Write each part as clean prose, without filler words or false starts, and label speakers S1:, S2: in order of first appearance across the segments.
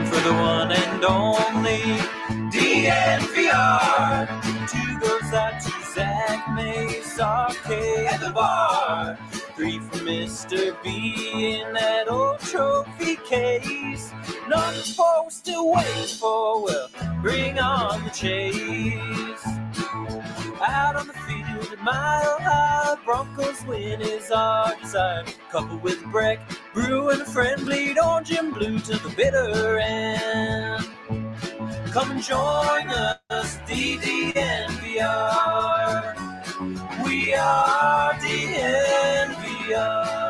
S1: for the one and only DNVR. 2 goes out to Zach Mace, RK at the bar. 3 for Mr. B in that old trophy case. Nothing supposed to wait for, well, bring on the chase. Out on the field at Mile High, Broncos win is our desire. Couple with Breck, Brew and a friend, bleed orange and blue to the bitter end. Come and join us, DNVR. We are DNVR.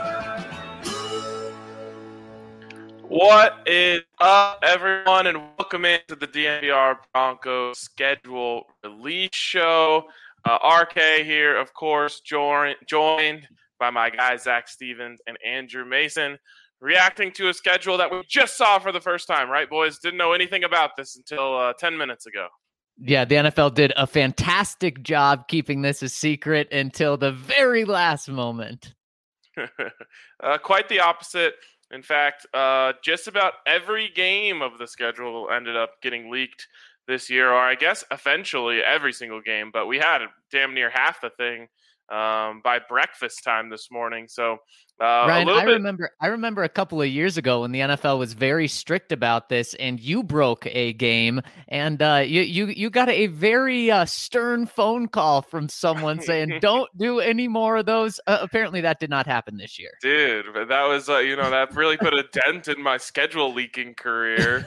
S2: What is up, everyone, and welcome into the DNVR Broncos schedule release show. RK here, of course, joined by my guys Zach Stevens and Andrew Mason, reacting to a schedule that we just saw for the first time, right, boys? Didn't know anything about this until 10 minutes ago.
S3: Yeah, the NFL did a fantastic job keeping this a secret until the very last moment.
S2: Quite the opposite. In fact, just about every game of the schedule ended up getting leaked this year, or I guess eventually every single game, but we had damn near half the thing by breakfast time this morning. So
S3: Ryan, I remember a couple of years ago when the NFL was very strict about this, and you broke a game, and you got a very stern phone call from someone saying, "Don't do any more of those." Apparently, that did not happen this year,
S2: dude. That was that really put a dent in my schedule leaking career,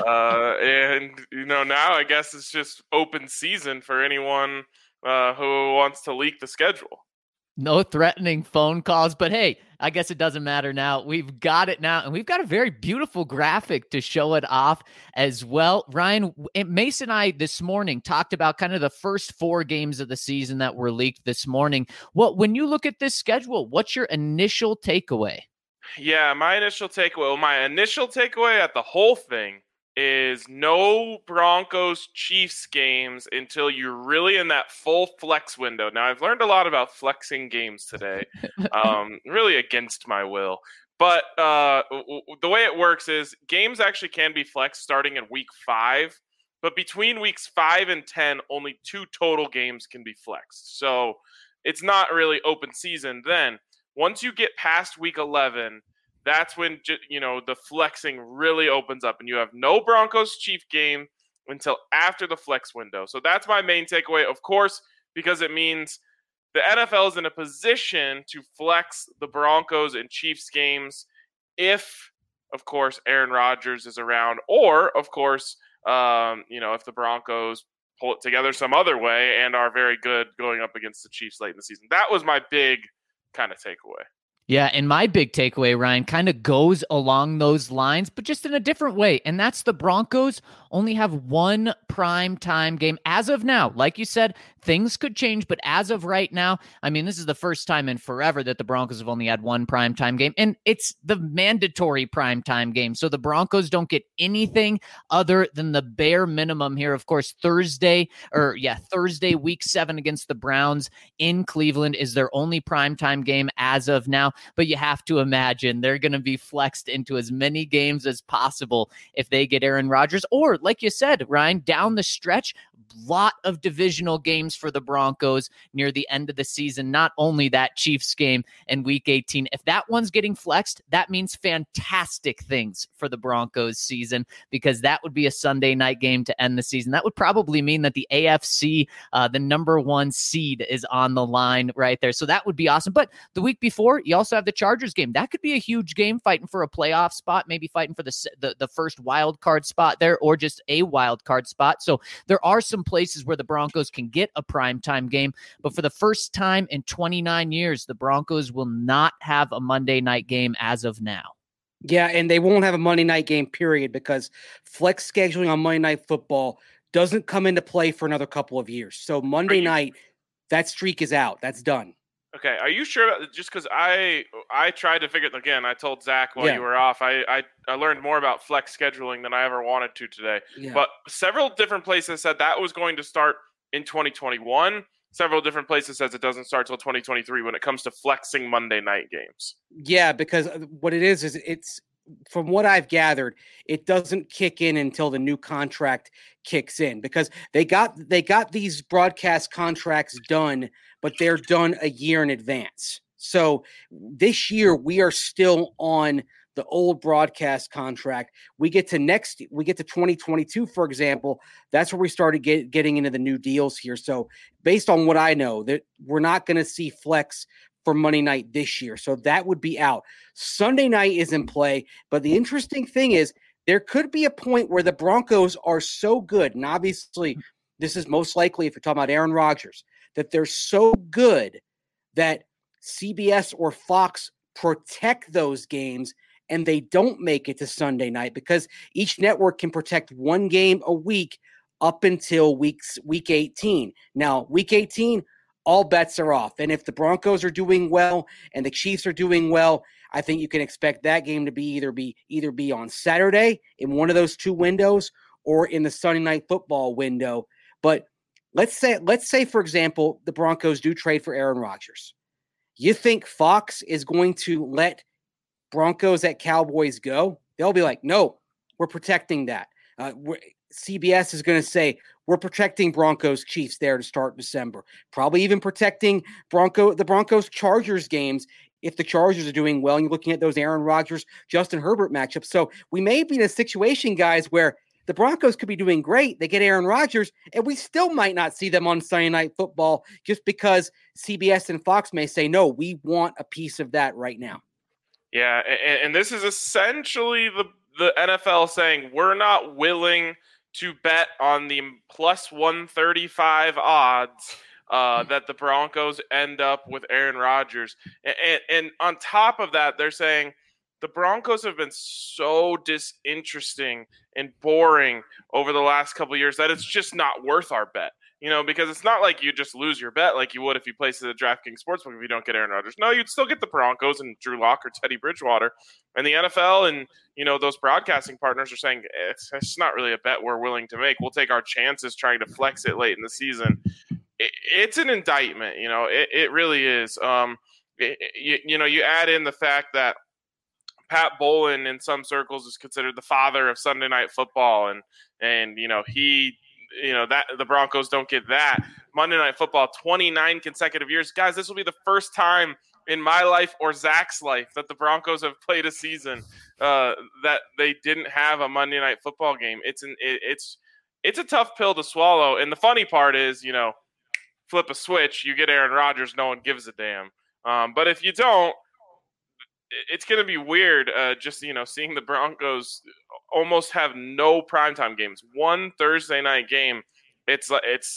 S2: and now I guess it's just open season for anyone who wants to leak the schedule.
S3: No threatening phone calls, but hey, I guess it doesn't matter now. We've got it now, and we've got a very beautiful graphic to show it off as well. Ryan, Mason and I this morning talked about kind of the first 4 games of the season that were leaked this morning. When you look at this schedule, what's your initial takeaway?
S2: Yeah, my initial takeaway at the whole thing is no Broncos-Chiefs games until you're really in that full flex window. Now, I've learned a lot about flexing games today, really against my will. But the way it works is games actually can be flexed starting in week 5. But between weeks 5 and 10, only 2 total games can be flexed. So it's not really open season then. Once you get past week 11, that's when the flexing really opens up, and you have no Broncos-Chiefs game until after the flex window. So that's my main takeaway, of course, because it means the NFL is in a position to flex the Broncos and Chiefs games if, of course, Aaron Rodgers is around, or, of course, if the Broncos pull it together some other way and are very good going up against the Chiefs late in the season. That was my big kind of takeaway.
S3: Yeah, and my big takeaway, Ryan, kind of goes along those lines, but just in a different way. And that's the Broncos only have 1 prime time game as of now. Like you said, things could change, but as of right now, I mean, this is the first time in forever that the Broncos have only had 1 prime time game, and it's the mandatory prime time game. So the Broncos don't get anything other than the bare minimum here. Of course, Thursday, week 7 against the Browns in Cleveland is their only prime time game as of now. But you have to imagine they're going to be flexed into as many games as possible if they get Aaron Rodgers, or like you said, Ryan, down the stretch, lot of divisional games for the Broncos near the end of the season, not only that Chiefs game in week 18. If that one's getting flexed, that means fantastic things for the Broncos season, because that would be a Sunday night game to end the season. That would probably mean that the AFC, the number 1 seed, is on the line right there. So that would be awesome. But the week before, you also have the Chargers game. That could be a huge game, fighting for a playoff spot, maybe fighting for the first wild card spot there, or just a wild card spot. So there are some places where the Broncos can get a primetime game, but for the first time in 29 years, the Broncos will not have a Monday night game as of now.
S4: Yeah, and they won't have a Monday night game, period, because flex scheduling on Monday Night Football doesn't come into play for another couple of years. So Monday night, that streak is out. That's done.
S2: Okay, are you sure? Just because I tried to figure it again. I told Zach while you were off. I learned more about flex scheduling than I ever wanted to today. Yeah. But several different places said that was going to start in 2021. Several different places says it doesn't start till 2023 when it comes to flexing Monday night games.
S4: Yeah, because what it is it's from what I've gathered, it doesn't kick in until the new contract kicks in, because they got these broadcast contracts done, but they're done a year in advance. So this year we are still on the old broadcast contract. We get to 2022, for example. That's where we started getting into the new deals here. So based on what I know, that we're not going to see flex for Monday night this year. So that would be out. Sunday night is in play. But the interesting thing is there could be a point where the Broncos are so good. And obviously this is most likely, if you're talking about Aaron Rodgers, that they're so good that CBS or Fox protect those games and they don't make it to Sunday night, because each network can protect one game a week up until week 18. Now, week 18, all bets are off. And if the Broncos are doing well and the Chiefs are doing well, I think you can expect that game to be either be on Saturday in one of those two windows or in the Sunday night football window. But let's say, for example, the Broncos do trade for Aaron Rodgers. You think Fox is going to let Broncos at Cowboys go? They'll be like, no, we're protecting that. CBS is going to say, we're protecting Broncos Chiefs there to start December. Probably even protecting the Broncos Chargers games if the Chargers are doing well and you're looking at those Aaron Rodgers, Justin Herbert matchups. So we may be in a situation, guys, where the Broncos could be doing great. They get Aaron Rodgers, and we still might not see them on Sunday Night Football just because CBS and Fox may say, no, we want a piece of that right now.
S2: Yeah, and this is essentially the NFL saying we're not willing to bet on the plus 135 odds that the Broncos end up with Aaron Rodgers. And on top of that, they're saying the Broncos have been so disinteresting and boring over the last couple of years that it's just not worth our bet. Because it's not like you just lose your bet like you would if you placed it at DraftKings Sportsbook if you don't get Aaron Rodgers. No, you'd still get the Broncos and Drew Lock or Teddy Bridgewater. And the NFL and, those broadcasting partners are saying it's not really a bet we're willing to make. We'll take our chances trying to flex it late in the season. It's an indictment. It really is. You add in the fact that Pat Bowlen in some circles is considered the father of Sunday Night Football. And he – that the Broncos don't get that. Monday Night Football, 29 consecutive years. Guys, this will be the first time in my life or Zach's life that the Broncos have played a season that they didn't have a Monday Night Football game. It's a tough pill to swallow. And the funny part is, flip a switch, you get Aaron Rodgers, no one gives a damn. But if you don't, it's going to be weird just, seeing the Broncos almost have no primetime games. One Thursday night game. It's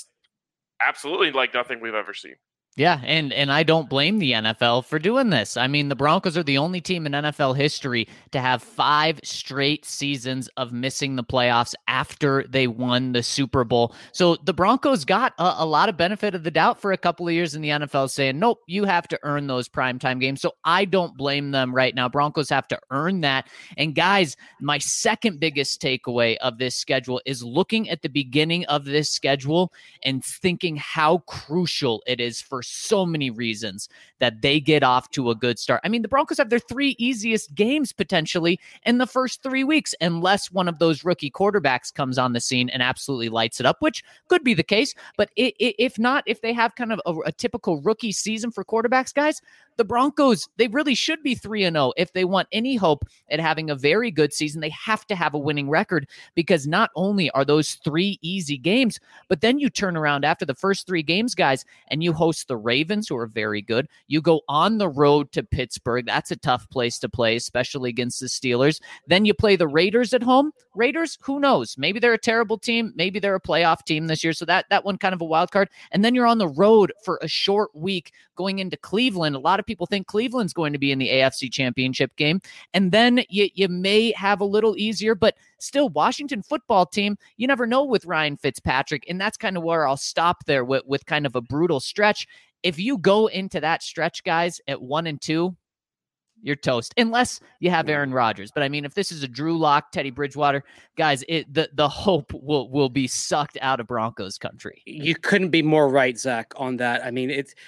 S2: absolutely like nothing we've ever seen.
S3: Yeah, and I don't blame the NFL for doing this. I mean, the Broncos are the only team in NFL history to have 5 straight seasons of missing the playoffs after they won the Super Bowl. So the Broncos got a lot of benefit of the doubt for a couple of years in the NFL saying, nope, you have to earn those primetime games. So I don't blame them right now. Broncos have to earn that. And guys, my second biggest takeaway of this schedule is looking at the beginning of this schedule and thinking how crucial it is for so many reasons that they get off to a good start. I mean, the Broncos have their 3 easiest games potentially in the first 3 weeks, unless one of those rookie quarterbacks comes on the scene and absolutely lights it up, which could be the case. But if not, if they have kind of a typical rookie season for quarterbacks, guys, the Broncos, they really should be 3-0. If they want any hope at having a very good season, they have to have a winning record, because not only are those 3 easy games, but then you turn around after the first 3 games, guys, and you host the Ravens, who are very good. You go on the road to Pittsburgh. That's a tough place to play, especially against the Steelers. Then you play the Raiders at home. Raiders, who knows? Maybe they're a terrible team. Maybe they're a playoff team this year. So that one kind of a wild card. And then you're on the road for a short week going into Cleveland. A lot of people think Cleveland's going to be in the AFC Championship game. And then you may have a little easier, but still, Washington football team, you never know with Ryan Fitzpatrick. And that's kind of where I'll stop there with kind of a brutal stretch. If you go into that stretch, guys, at 1-2, you're toast, unless you have Aaron Rodgers. But I mean, if this is a Drew Lock, Teddy Bridgewater, guys, the hope will be sucked out of Broncos country.
S4: You couldn't be more right, Zach, on that. I mean,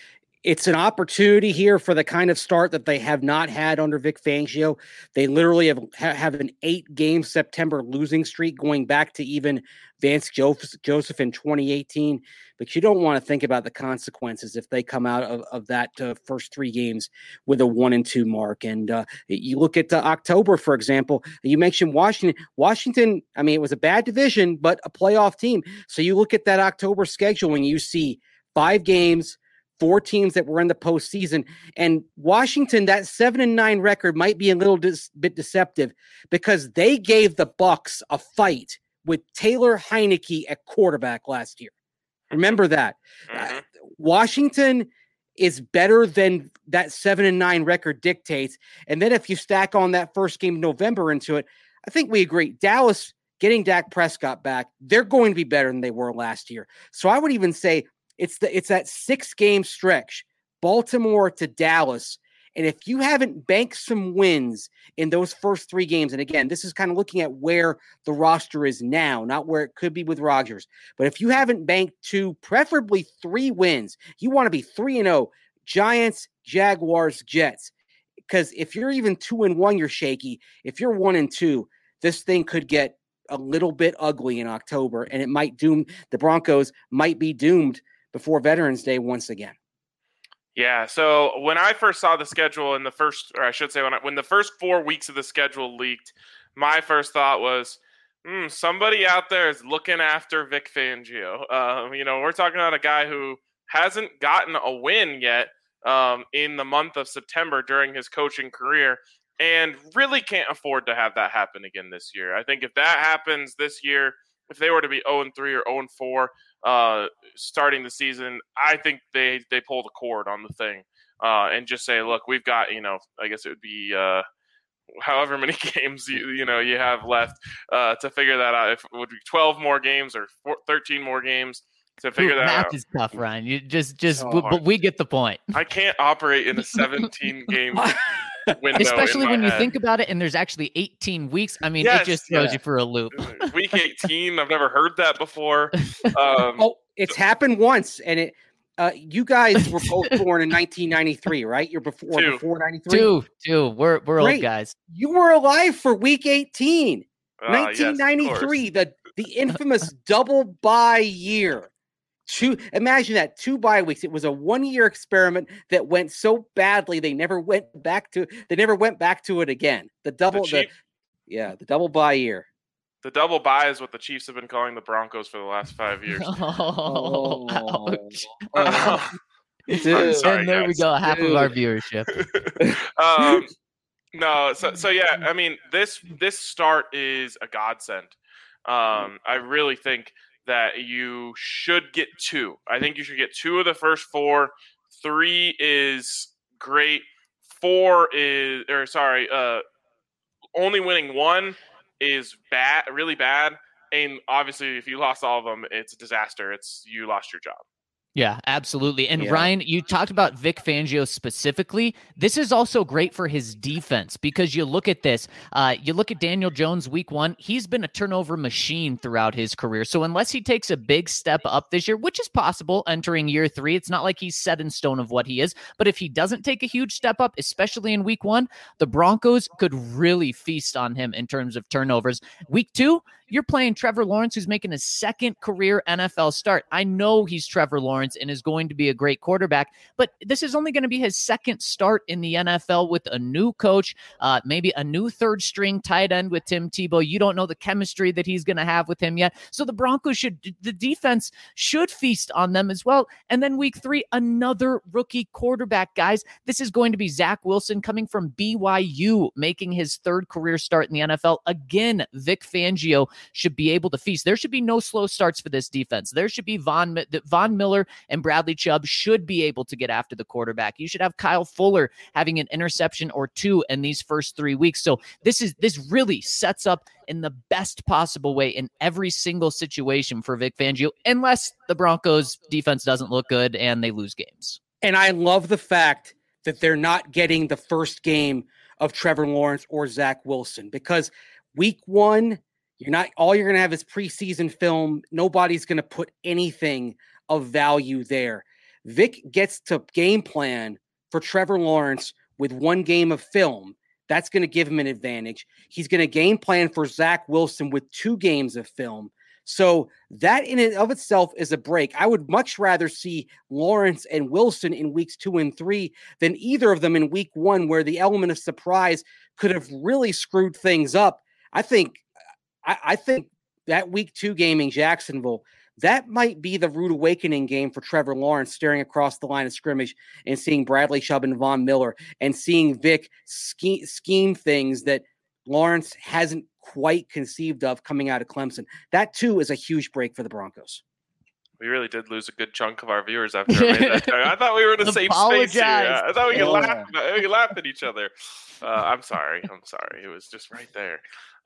S4: It's an opportunity here for the kind of start that they have not had under Vic Fangio. They literally have an 8-game September losing streak going back to even Vance Joseph in 2018. But you don't want to think about the consequences if they come out of that first 3 games with a 1-2 mark. And you look at October, for example. You mentioned Washington. Washington, I mean, it was a bad division, but a playoff team. So you look at that October schedule and you see 5 games, 4 teams that were in the postseason, and Washington, that 7-9 record might be a little bit deceptive because they gave the Bucs a fight with Taylor Heineke at quarterback last year. Remember that. Washington is better than that 7-9 record dictates. And then if you stack on that first game in November into it, I think we agree. Dallas getting Dak Prescott back, they're going to be better than they were last year. So I would even say it's that 6-game stretch, Baltimore to Dallas. And if you haven't banked some wins in those first 3 games, and again, this is kind of looking at where the roster is now, not where it could be with Rodgers. But if you haven't banked 2, preferably 3 wins, you want to be 3-0, Giants, Jaguars, Jets. Because if you're even 2-1, you're shaky. If you're 1-2, this thing could get a little bit ugly in October, and it might doom the Broncos might be doomed before Veterans Day once again.
S2: Yeah, so when I first saw the schedule in the first, or I should say when the first 4 weeks of the schedule leaked, my first thought was, somebody out there is looking after Vic Fangio. We're talking about a guy who hasn't gotten a win yet in the month of September during his coaching career, and really can't afford to have that happen again this year. I think if that happens this year, if they were to be 0-3 or 0-4 starting the season, I think they pull the cord on the thing and just say, look, we've got, I guess it would be however many games you have left to figure that out. If it would be 12 more games or 13 more games to figure that out.
S3: Math is tough, Ryan. You but we get the point.
S2: I can't operate in a 17-game window.
S3: Especially when you
S2: head.
S3: think about it, and there's actually 18 weeks. I mean, it just throws you for a loop.
S2: Week 18, I've never heard that before.
S4: It's happened once, and it. You guys were both born in 1993, right? You're before 93.
S3: Two. We're old guys.
S4: You were alive for Week 18, 1993.
S2: Yes,
S4: the infamous double bye year. Imagine that, 2 bye weeks. It was a 1-year experiment that went so badly they never went back to it again. The double bye year.
S2: The double bye is what the Chiefs have been calling the Broncos for the last 5 years.
S3: Ouch.
S2: Sorry,
S3: and there
S2: guys.
S3: we go, half of our viewership.
S2: No, so yeah, I mean, this start is a godsend. I really think that you should get 2. I think you should get 2 of the first 4. 3 is great. 4 is, only winning 1 is bad, really bad. And obviously, if you lost all of them, it's a disaster. You lost your job.
S3: Yeah, absolutely. And Ryan, you talked about Vic Fangio specifically. This is also great for his defense because you look at this. You look at Daniel Jones week 1. He's been a turnover machine throughout his career. So unless he takes a big step up this year, which is possible entering year 3, it's not like he's set in stone of what he is. But if he doesn't take a huge step up, especially in week 1, the Broncos could really feast on him in terms of turnovers. Week 2, you're playing Trevor Lawrence, who's making his 2nd career NFL start. I know he's Trevor Lawrence and is going to be a great quarterback, but this is only going to be his 2nd start in the NFL with a new coach, maybe a new 3rd string tight end with Tim Tebow. You don't know the chemistry that he's going to have with him yet. So the defense should feast on them as well. And then week 3, another rookie quarterback, guys. This is going to be Zach Wilson coming from BYU, making his 3rd career start in the NFL. Again, Vic Fangio should be able to feast. There should be no slow starts for this defense. There should be Von Miller and Bradley Chubb should be able to get after the quarterback. You should have Kyle Fuller having an interception or 2 in these first 3 weeks. So this really sets up in the best possible way in every single situation for Vic Fangio, unless the Broncos defense doesn't look good and they lose games.
S4: And I love the fact that they're not getting the first game of Trevor Lawrence or Zach Wilson, because week 1, you're going to have is preseason film. Nobody's going to put anything of value there. Vic gets to game plan for Trevor Lawrence with one game of film. That's going to give him an advantage. He's going to game plan for Zach Wilson with 2 games of film. So that in and of itself is a break. I would much rather see Lawrence and Wilson in weeks 2 and 3 than either of them in week 1, where the element of surprise could have really screwed things up. I think that week 2 game in Jacksonville, that might be the rude awakening game for Trevor Lawrence, staring across the line of scrimmage and seeing Bradley Chubb and Von Miller and seeing Vic scheme things that Lawrence hasn't quite conceived of coming out of Clemson. That, too, is a huge break for the Broncos.
S2: We really did lose a good chunk of our viewers after I made that joke. I thought we were in the same space here. I thought we could laugh at each other. I'm sorry. It was just right there.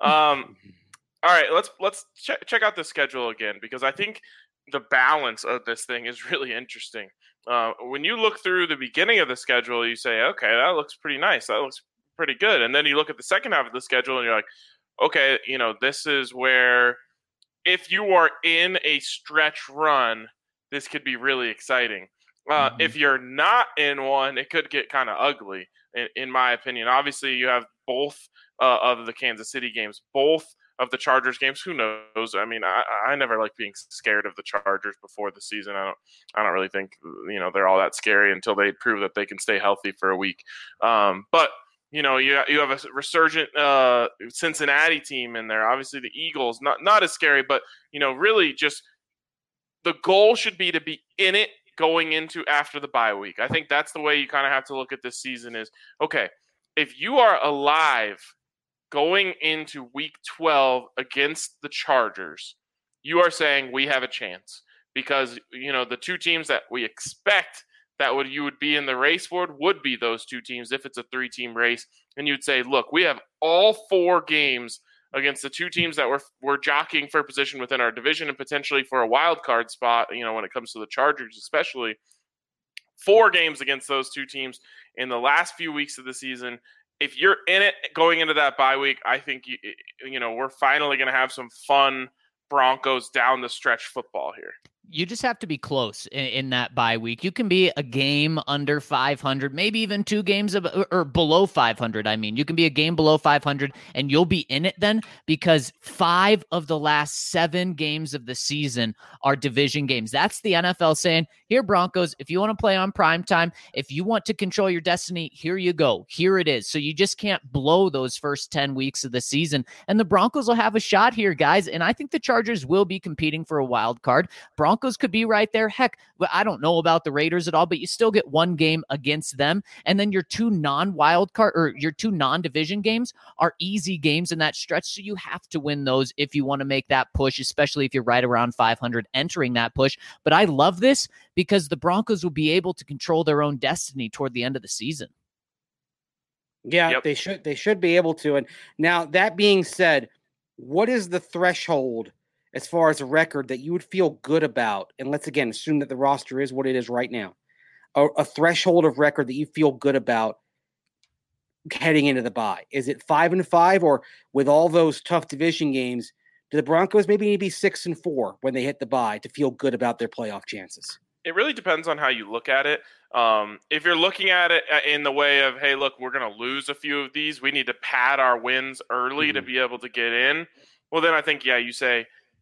S2: All right, let's check out the schedule again, because I think the balance of this thing is really interesting. When you look through the beginning of the schedule, you say, okay, that looks pretty nice. That looks pretty good. And then you look at the second half of the schedule and you're like, okay, this is where if you are in a stretch run, this could be really exciting. If you're not in one, it could get kind of ugly, in my opinion. Obviously, you have both of the Kansas City games, both of the Chargers games. Who knows? I mean, I never like being scared of the Chargers before the season. I don't really think they're all that scary until they prove that they can stay healthy for a week. But you have a resurgent Cincinnati team in there. Obviously, the Eagles not as scary, but really just the goal should be to be in it going into after the bye week. I think that's the way you kind of have to look at this season. Is okay if you are alive going into week 12 against the Chargers, you are saying we have a chance, because the 2 teams that we expect that you would be in the race for would be those 2 teams if it's a 3-team race, and you'd say, look, we have all 4 games against the 2 teams that we're jockeying for position within our division and potentially for a wild card spot. When it comes to the Chargers, especially 4 games against those 2 teams in the last few weeks of the season. If you're in it going into that bye week, I think we're finally going to have some fun Broncos down the stretch football here.
S3: You just have to be close in that bye week. You can be a game under 500, maybe even 2 games or below 500. I mean, you can be a game below 500 and you'll be in it then, because 5 of the last 7 games of the season are division games. That's the NFL saying, here, Broncos, if you want to play on prime time, if you want to control your destiny, here you go. Here it is. So you just can't blow those first 10 weeks of the season. And the Broncos will have a shot here, guys. And I think the Chargers will be competing for a wild card. Broncos could be right there. Heck, I don't know about the Raiders at all, but you still get 1 game against them. And then your 2 non-wild card or your 2 non-division games are easy games in that stretch. So you have to win those if you want to make that push, especially if you're right around 500 entering that push. But I love this because the Broncos will be able to control their own destiny toward the end of the season.
S4: Yeah, yep. They should be able to. And now, that being said, what is the threshold as far as a record that you would feel good about? And let's again assume that the roster is what it is right now. A threshold of record that you feel good about heading into the bye. Is it 5-5, or with all those tough division games, do the Broncos maybe need to be 6-4 when they hit the bye to feel good about their playoff chances?
S2: It really depends on how you look at it. If you're looking at it in the way of, hey, look, we're going to lose a few of these, we need to pad our wins early to be able to get in. Well, then I think, you say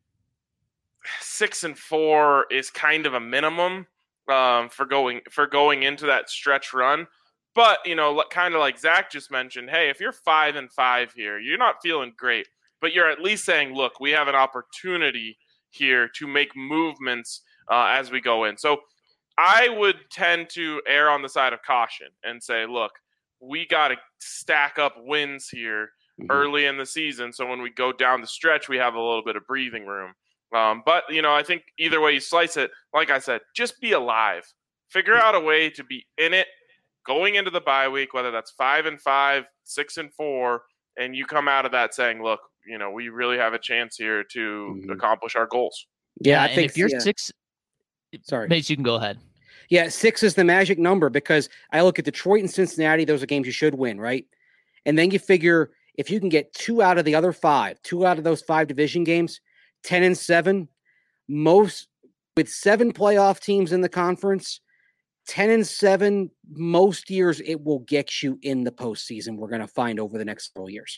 S2: 6-4 is kind of a minimum for going into that stretch run. But, kind of like Zach just mentioned, hey, if you're 5-5 here, you're not feeling great, but you're at least saying, look, we have an opportunity here to make movements as we go in. So I would tend to err on the side of caution and say, look, we got to stack up wins here early in the season. So when we go down the stretch, we have a little bit of breathing room. But, I think either way you slice it, like I said, just be alive. Figure out a way to be in it going into the bye week, whether that's 5-5, 6-4, and you come out of that saying, look, we really have a chance here to accomplish our goals.
S4: Yeah, I think
S3: if you're 6,
S4: sorry,
S3: Mace, you can go ahead.
S4: Yeah, 6 is the magic number, because I look at Detroit and Cincinnati; those are games you should win, right? And then you figure if you can get 2 out of the other 5, 2 out of those 5 division games, 10-7, most with 7 playoff teams in the conference, 10-7, most years it will get you in the postseason. We're going to find over the next several years.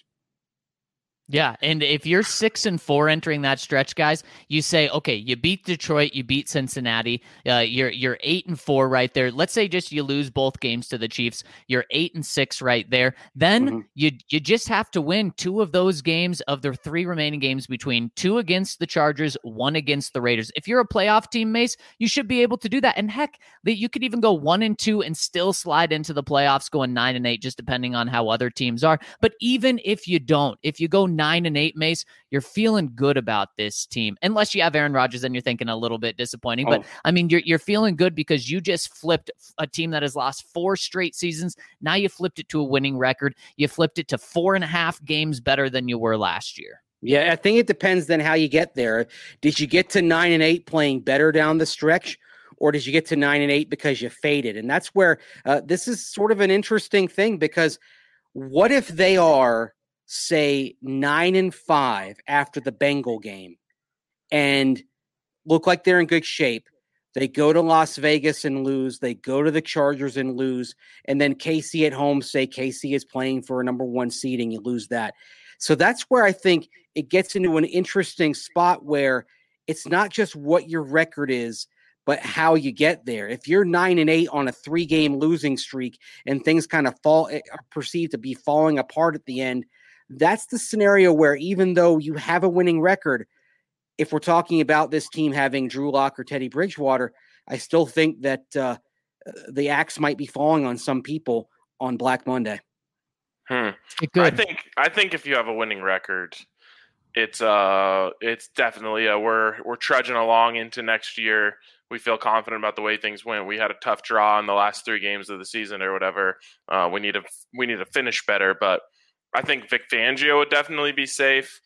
S3: Yeah, and if you're 6-4 entering that stretch, guys, you say, okay, you beat Detroit, you beat Cincinnati, you're 8-4 right there. Let's say just you lose both games to the Chiefs, you're 8-6 right there. Then you just have to win 2 of those games of the 3 remaining games, between 2 against the Chargers, 1 against the Raiders. If you're a playoff team, Mace, you should be able to do that. And heck, you could even go 1-2 and still slide into the playoffs, going 9-8, just depending on how other teams are. But even if you don't, if you go 9-8, Mace, you're feeling good about this team. Unless you have Aaron Rodgers, then you're thinking a little bit disappointing. But I mean, you're feeling good because you just flipped a team that has lost 4 straight seasons. Now you flipped it to a winning record. You flipped it to 4.5 games better than you were last year.
S4: Yeah, I think it depends then how you get there. Did you get to 9-8 playing better down the stretch, or did you get to 9-8 because you faded? And that's where this is sort of an interesting thing, because what if they are, say, 9-5 after the Bengal game and look like they're in good shape? They go to Las Vegas and lose. They go to the Chargers and lose. And then KC at home, say KC is playing for a number 1 seed and you lose that. So that's where I think it gets into an interesting spot where it's not just what your record is, but how you get there. If you're 9-8 on a 3-game losing streak and things kind of are perceived to be falling apart at the end, that's the scenario where, even though you have a winning record, if we're talking about this team having Drew Lock or Teddy Bridgewater, I still think that the axe might be falling on some people on Black Monday.
S2: I think if you have a winning record, it's definitely we're trudging along into next year. We feel confident about the way things went. We had a tough draw in the last 3 games of the season or whatever. We need to finish better, but I think Vic Fangio would definitely be safe.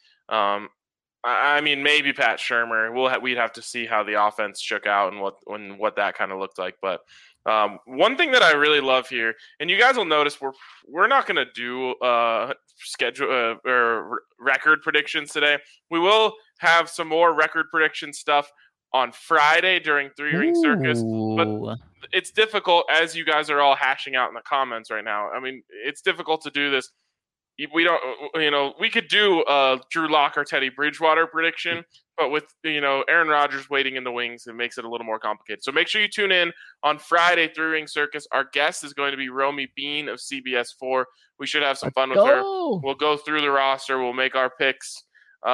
S2: I mean, maybe Pat Shurmur. We'd have to see how the offense shook out and what that kind of looked like. But one thing that I really love here, and you guys will notice, we're not going to do schedule or record predictions today. We will have some more record prediction stuff on Friday during 3-Ring Circus, but it's difficult, as you guys are all hashing out in the comments right now. I mean, it's difficult to do this. We don't, we could do a Drew Lock or Teddy Bridgewater prediction, but with, Aaron Rodgers waiting in the wings, it makes it a little more complicated. So make sure you tune in on Friday, 3-Ring Circus. Our guest is going to be Romy Bean of CBS4. We should have some fun with her. We'll go through the roster. We'll make our picks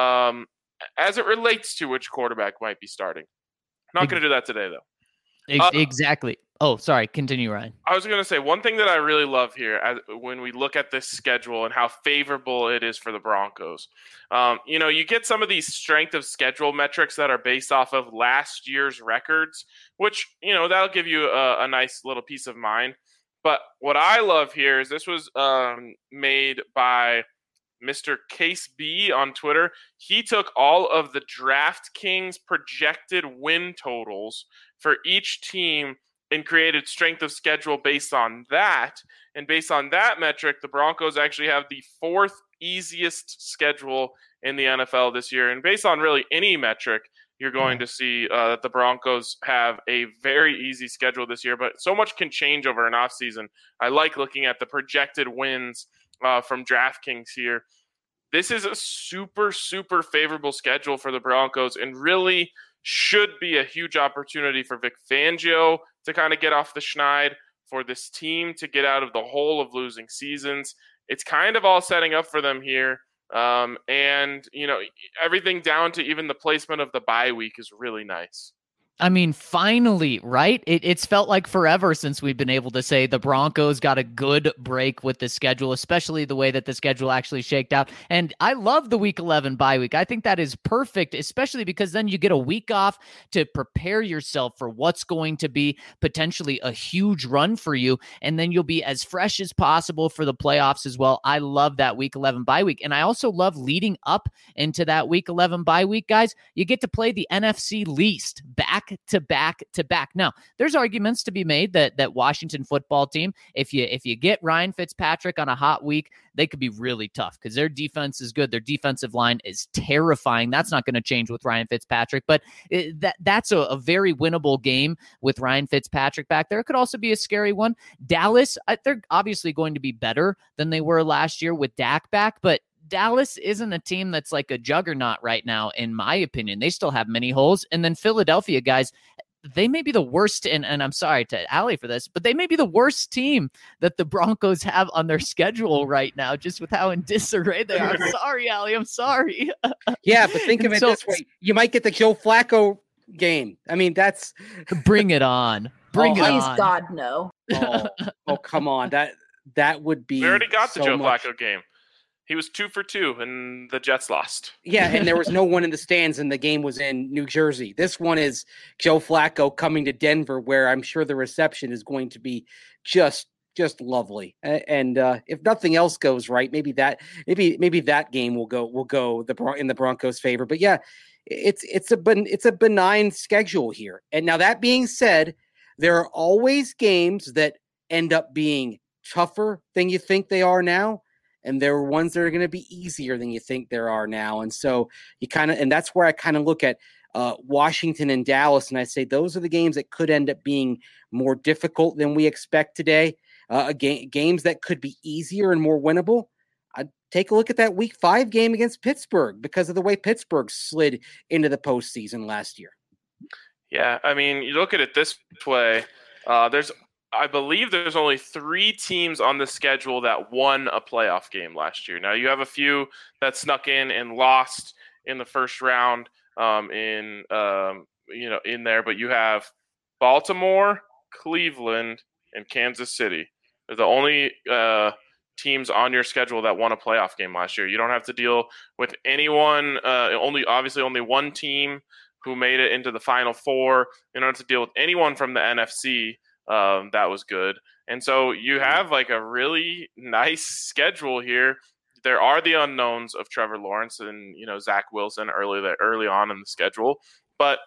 S2: as it relates to which quarterback might be starting. Not going to do that today, though.
S3: Exactly. Oh, sorry. Continue, Ryan.
S2: I was going to say, one thing that I really love here when we look at this schedule and how favorable it is for the Broncos, you get some of these strength of schedule metrics that are based off of last year's records, which, that'll give you a nice little peace of mind. But what I love here is this was made by Mr. Case B on Twitter. He took all of the DraftKings projected win totals for each team and created strength of schedule based on that. And based on that metric, the Broncos actually have the 4th easiest schedule in the NFL this year. And based on really any metric, you're going to see that the Broncos have a very easy schedule this year. But so much can change over an offseason. I like looking at the projected wins from DraftKings here. This is a super, super favorable schedule for the Broncos and really should be a huge opportunity for Vic Fangio to kind of get off the schneid, for this team to get out of the hole of losing seasons. It's kind of all setting up for them here. And, everything down to even the placement of the bye week is really nice.
S3: I mean, finally, right? It's felt like forever since we've been able to say the Broncos got a good break with the schedule, especially the way that the schedule actually shaked out. And I love the Week 11 bye week. I think that is perfect, especially because then you get a week off to prepare yourself for what's going to be potentially a huge run for you. And then you'll be as fresh as possible for the playoffs as well. I love that Week 11 bye week. And I also love leading up into that Week 11 bye week, guys. You get to play the NFC least back back to back to back. Now, there's arguments to be made that Washington football team, if you get Ryan Fitzpatrick on a hot week, they could be really tough because their defense is good. Their defensive line is terrifying. That's not going to change with Ryan Fitzpatrick, but that's a very winnable game with Ryan Fitzpatrick back there. It could also be a scary one. Dallas, they're obviously going to be better than they were last year with Dak back, but Dallas isn't a team that's like a juggernaut right now, in my opinion. They still have many holes. And then Philadelphia, guys, they may be the worst, and I'm sorry to Allie for this, but they may be the worst team that the Broncos have on their schedule right now, just with how in disarray they are. Sorry, Allie, I'm sorry.
S4: Yeah, but think of it this way. You might get the Joe Flacco game. I mean, that's...
S3: Bring it on. Bring it on.
S5: Please, God, no.
S4: Oh, come on. That would be...
S2: We already got
S4: so
S2: the Joe
S4: much...
S2: Flacco game. He was 2 for 2, and the Jets lost.
S4: Yeah, and there was no one in the stands, and the game was in New Jersey. This one is Joe Flacco coming to Denver, where I'm sure the reception is going to be just lovely. And if nothing else goes right, maybe that game will go in the Broncos' favor. But yeah, it's a benign schedule here. And now that being said, there are always games that end up being tougher than you think they are now. And there are ones that are going to be easier than you think there are now. And so and that's where I kind of look at Washington and Dallas. And I say, those are the games that could end up being more difficult than we expect today. Games that could be easier and more winnable. I'd take a look at that week 5 game against Pittsburgh because of the way Pittsburgh slid into the postseason last year.
S2: Yeah. I mean, you look at it this way, I believe there's only 3 teams on the schedule that won a playoff game last year. Now you have a few that snuck in and lost in the first round in there, but you have Baltimore, Cleveland, and Kansas City. They're the only teams on your schedule that won a playoff game last year. You don't have to deal with anyone, only one team who made it into the Final Four. You don't have to deal with anyone from the NFC. That was good. And so you have like a really nice schedule here. There are the unknowns of Trevor Lawrence and, Zach Wilson early on in the schedule. But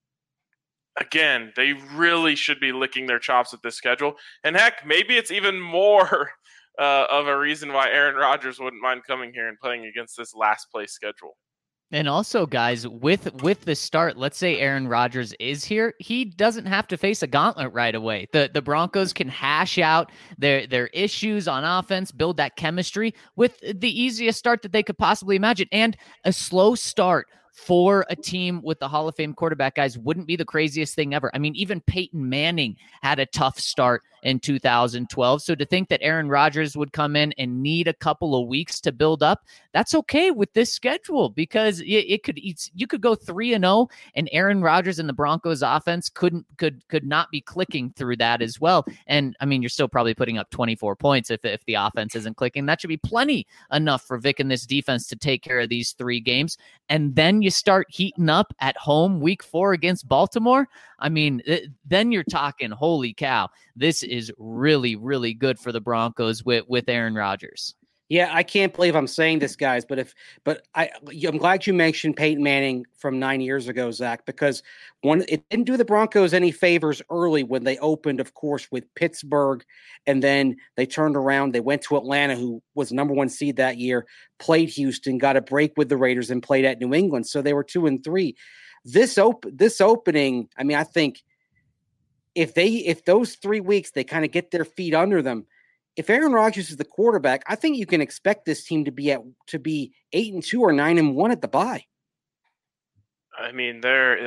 S2: again, they really should be licking their chops at this schedule. And heck, maybe it's even more of a reason why Aaron Rodgers wouldn't mind coming here and playing against this last place schedule.
S3: And also, guys, with the start, let's say Aaron Rodgers is here, he doesn't have to face a gauntlet right away. The Broncos can hash out their issues on offense, build that chemistry with the easiest start that they could possibly imagine. And a slow start for a team with the Hall of Fame quarterback, guys, wouldn't be the craziest thing ever. I mean, even Peyton Manning had a tough start in 2012. So to think that Aaron Rodgers would come in and need a couple of weeks to build up, that's okay with this schedule because you could go 3-0 and Aaron Rodgers and the Broncos offense could not be clicking through that as well. And I mean, you're still probably putting up 24 points if the offense isn't clicking. That should be plenty enough for Vic and this defense to take care of these 3 games. And then you start heating up at home week 4 against Baltimore. I mean, then you're talking, holy cow, this is really, really good for the Broncos with Aaron Rodgers.
S4: Yeah, I can't believe I'm saying this, guys, but I'm glad you mentioned Peyton Manning from 9 years ago, Zach, because it didn't do the Broncos any favors early when they opened, of course, with Pittsburgh, and then they turned around. They went to Atlanta, who was number 1 seed that year, played Houston, got a break with the Raiders, and played at New England. So they were 2-3. This opening, I mean, I think if those 3 weeks they kind of get their feet under them. If Aaron Rodgers is the quarterback, I think you can expect this team to be 8-2 or 9-1 at the bye.
S2: I mean,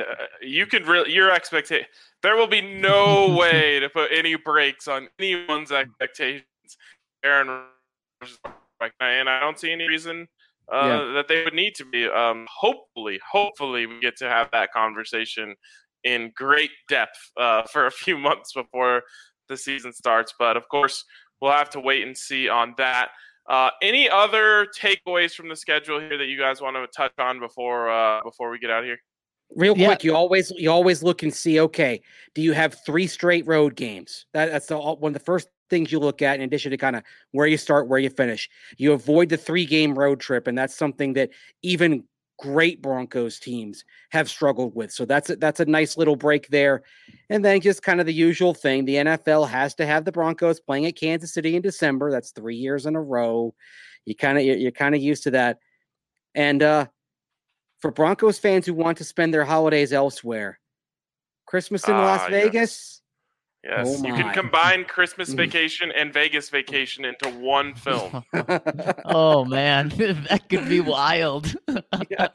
S2: your expectation. There will be no way to put any brakes on anyone's expectations. Aaron Rodgers, and I don't see any reason that they would need to be. Hopefully, we get to have that conversation in great depth for a few months before the season starts. But of course, we'll have to wait and see on that. Any other takeaways from the schedule here that you guys want to touch on before we get out of here?
S4: Real quick, you always look and see, okay, do you have 3 straight road games? That's one of the first things you look at, in addition to kind of where you start, where you finish. You avoid the 3-game road trip, and that's something that even great Broncos teams have struggled with. So that's a nice little break there. And then just kind of the usual thing. The NFL has to have the Broncos playing at Kansas City in December. That's 3 years in a row. You're kind of used to that. And for Broncos fans who want to spend their holidays elsewhere, Christmas in Las Vegas.
S2: Yes,
S4: oh
S2: you can combine Christmas Vacation and Vegas Vacation into one film.
S3: Oh man, that could be wild.
S4: Yes.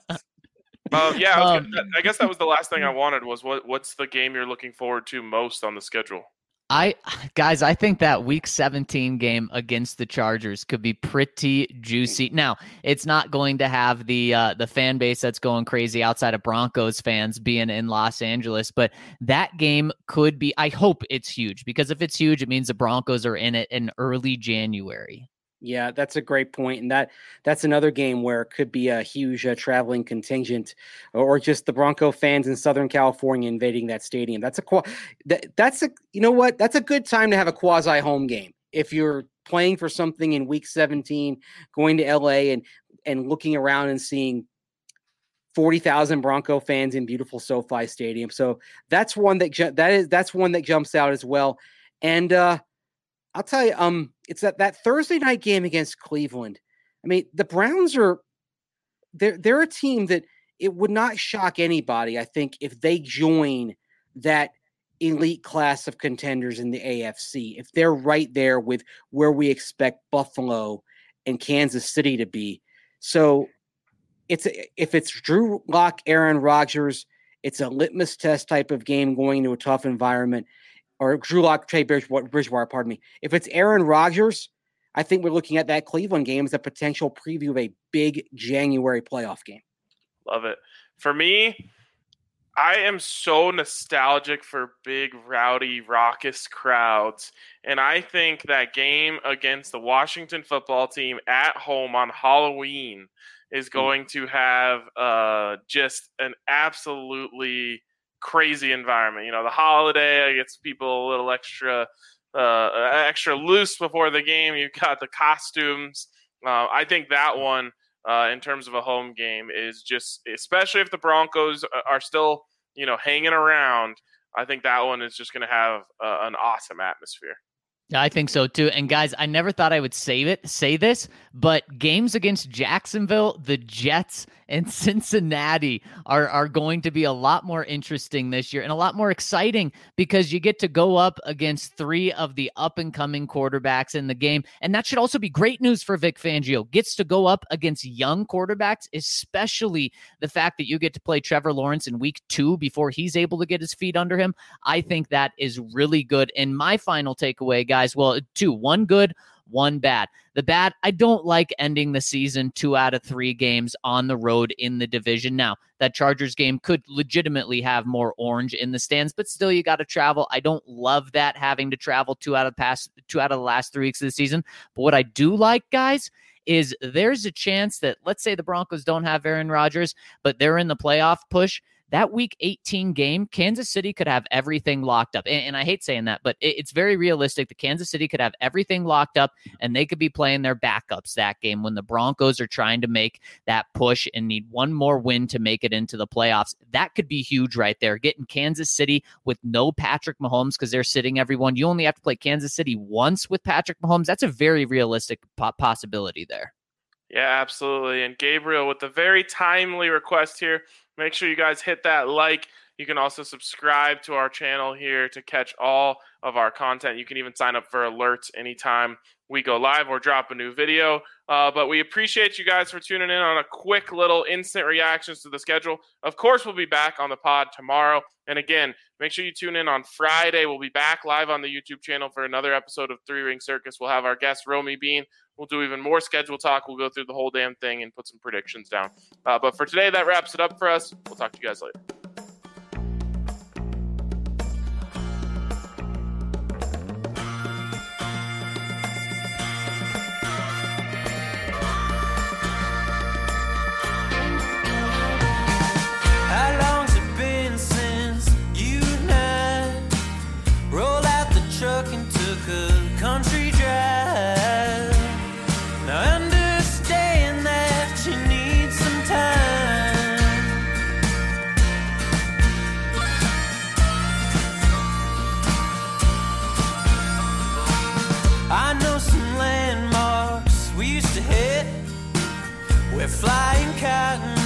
S2: I guess that was the last thing I wanted was what's the game you're looking forward to most on the schedule?
S3: I think that week 17 game against the Chargers could be pretty juicy. Now, it's not going to have the fan base that's going crazy outside of Broncos fans being in Los Angeles, but that game could be, I hope it's huge, because if it's huge, it means the Broncos are in it in early January.
S4: Yeah, that's a great point. And that's another game where it could be a huge traveling contingent or just the Bronco fans in Southern California invading that stadium. That's you know what? That's a good time to have a quasi home game. If you're playing for something in week 17, going to LA and looking around and seeing 40,000 Bronco fans in beautiful SoFi Stadium. So that's one that jumps out as well. And I'll tell you, it's that Thursday night game against Cleveland. I mean, the Browns they're a team that it would not shock anybody, I think, if they join that elite class of contenders in the AFC. If they're right there with where we expect Buffalo and Kansas City to be. So if it's Drew Lock, Aaron Rodgers, it's a litmus test type of game going into a tough environment. Or Drew Lock, Trey Bridgewater, pardon me. If it's Aaron Rodgers, I think we're looking at that Cleveland game as a potential preview of a big January playoff game.
S2: Love it. For me, I am so nostalgic for big, rowdy, raucous crowds. And I think that game against the Washington football team at home on Halloween is going to have just an absolutely crazy environment. You know, the holiday gets people a little extra loose before the game. You've got the costumes. I think that one, in terms of a home game, is just, especially if the Broncos are still, hanging around, I think that one is just going to have an awesome atmosphere.
S3: I think so too. And guys, I never thought I would say this, but games against Jacksonville, the Jets, and Cincinnati are going to be a lot more interesting this year and a lot more exciting because you get to go up against 3 of the up-and-coming quarterbacks in the game. And that should also be great news for Vic Fangio. Gets to go up against young quarterbacks, especially the fact that you get to play Trevor Lawrence in week 2 before he's able to get his feet under him. I think that is really good. And my final takeaway, guys, well, 2, 1 good, 1 bad. The bad, I don't like ending the season 2 out of 3 games on the road in the division. Now, that Chargers game could legitimately have more orange in the stands, but still you got to travel. I don't love that, having to travel 2 out of the last 3 weeks of the season. But what I do like, guys, is there's a chance that, let's say the Broncos don't have Aaron Rodgers, but they're in the playoff push. That week 18 game, Kansas City could have everything locked up. And I hate saying that, but it's very realistic that Kansas City could have everything locked up and they could be playing their backups that game when the Broncos are trying to make that push and need one more win to make it into the playoffs. That could be huge right there. Getting Kansas City with no Patrick Mahomes because they're sitting everyone. You only have to play Kansas City once with Patrick Mahomes. That's a very realistic possibility there.
S2: Yeah, absolutely. And Gabriel, with the very timely request here, make sure you guys hit that like. You can also subscribe to our channel here to catch all of our content. You can even sign up for alerts anytime we go live or drop a new video. But we appreciate you guys for tuning in on a quick little instant reactions to the schedule. Of course, we'll be back on the pod tomorrow. And again, make sure you tune in on Friday. We'll be back live on the YouTube channel for another episode of 3 Ring Circus. We'll have our guest, Romy Bean. We'll do even more schedule talk. We'll go through the whole damn thing and put some predictions down. But for today, that wraps it up for us. We'll talk to you guys later.
S1: How long's it been since you and I rolled out the truck and took a country drive? Now I understand that you need some time. We're flying cotton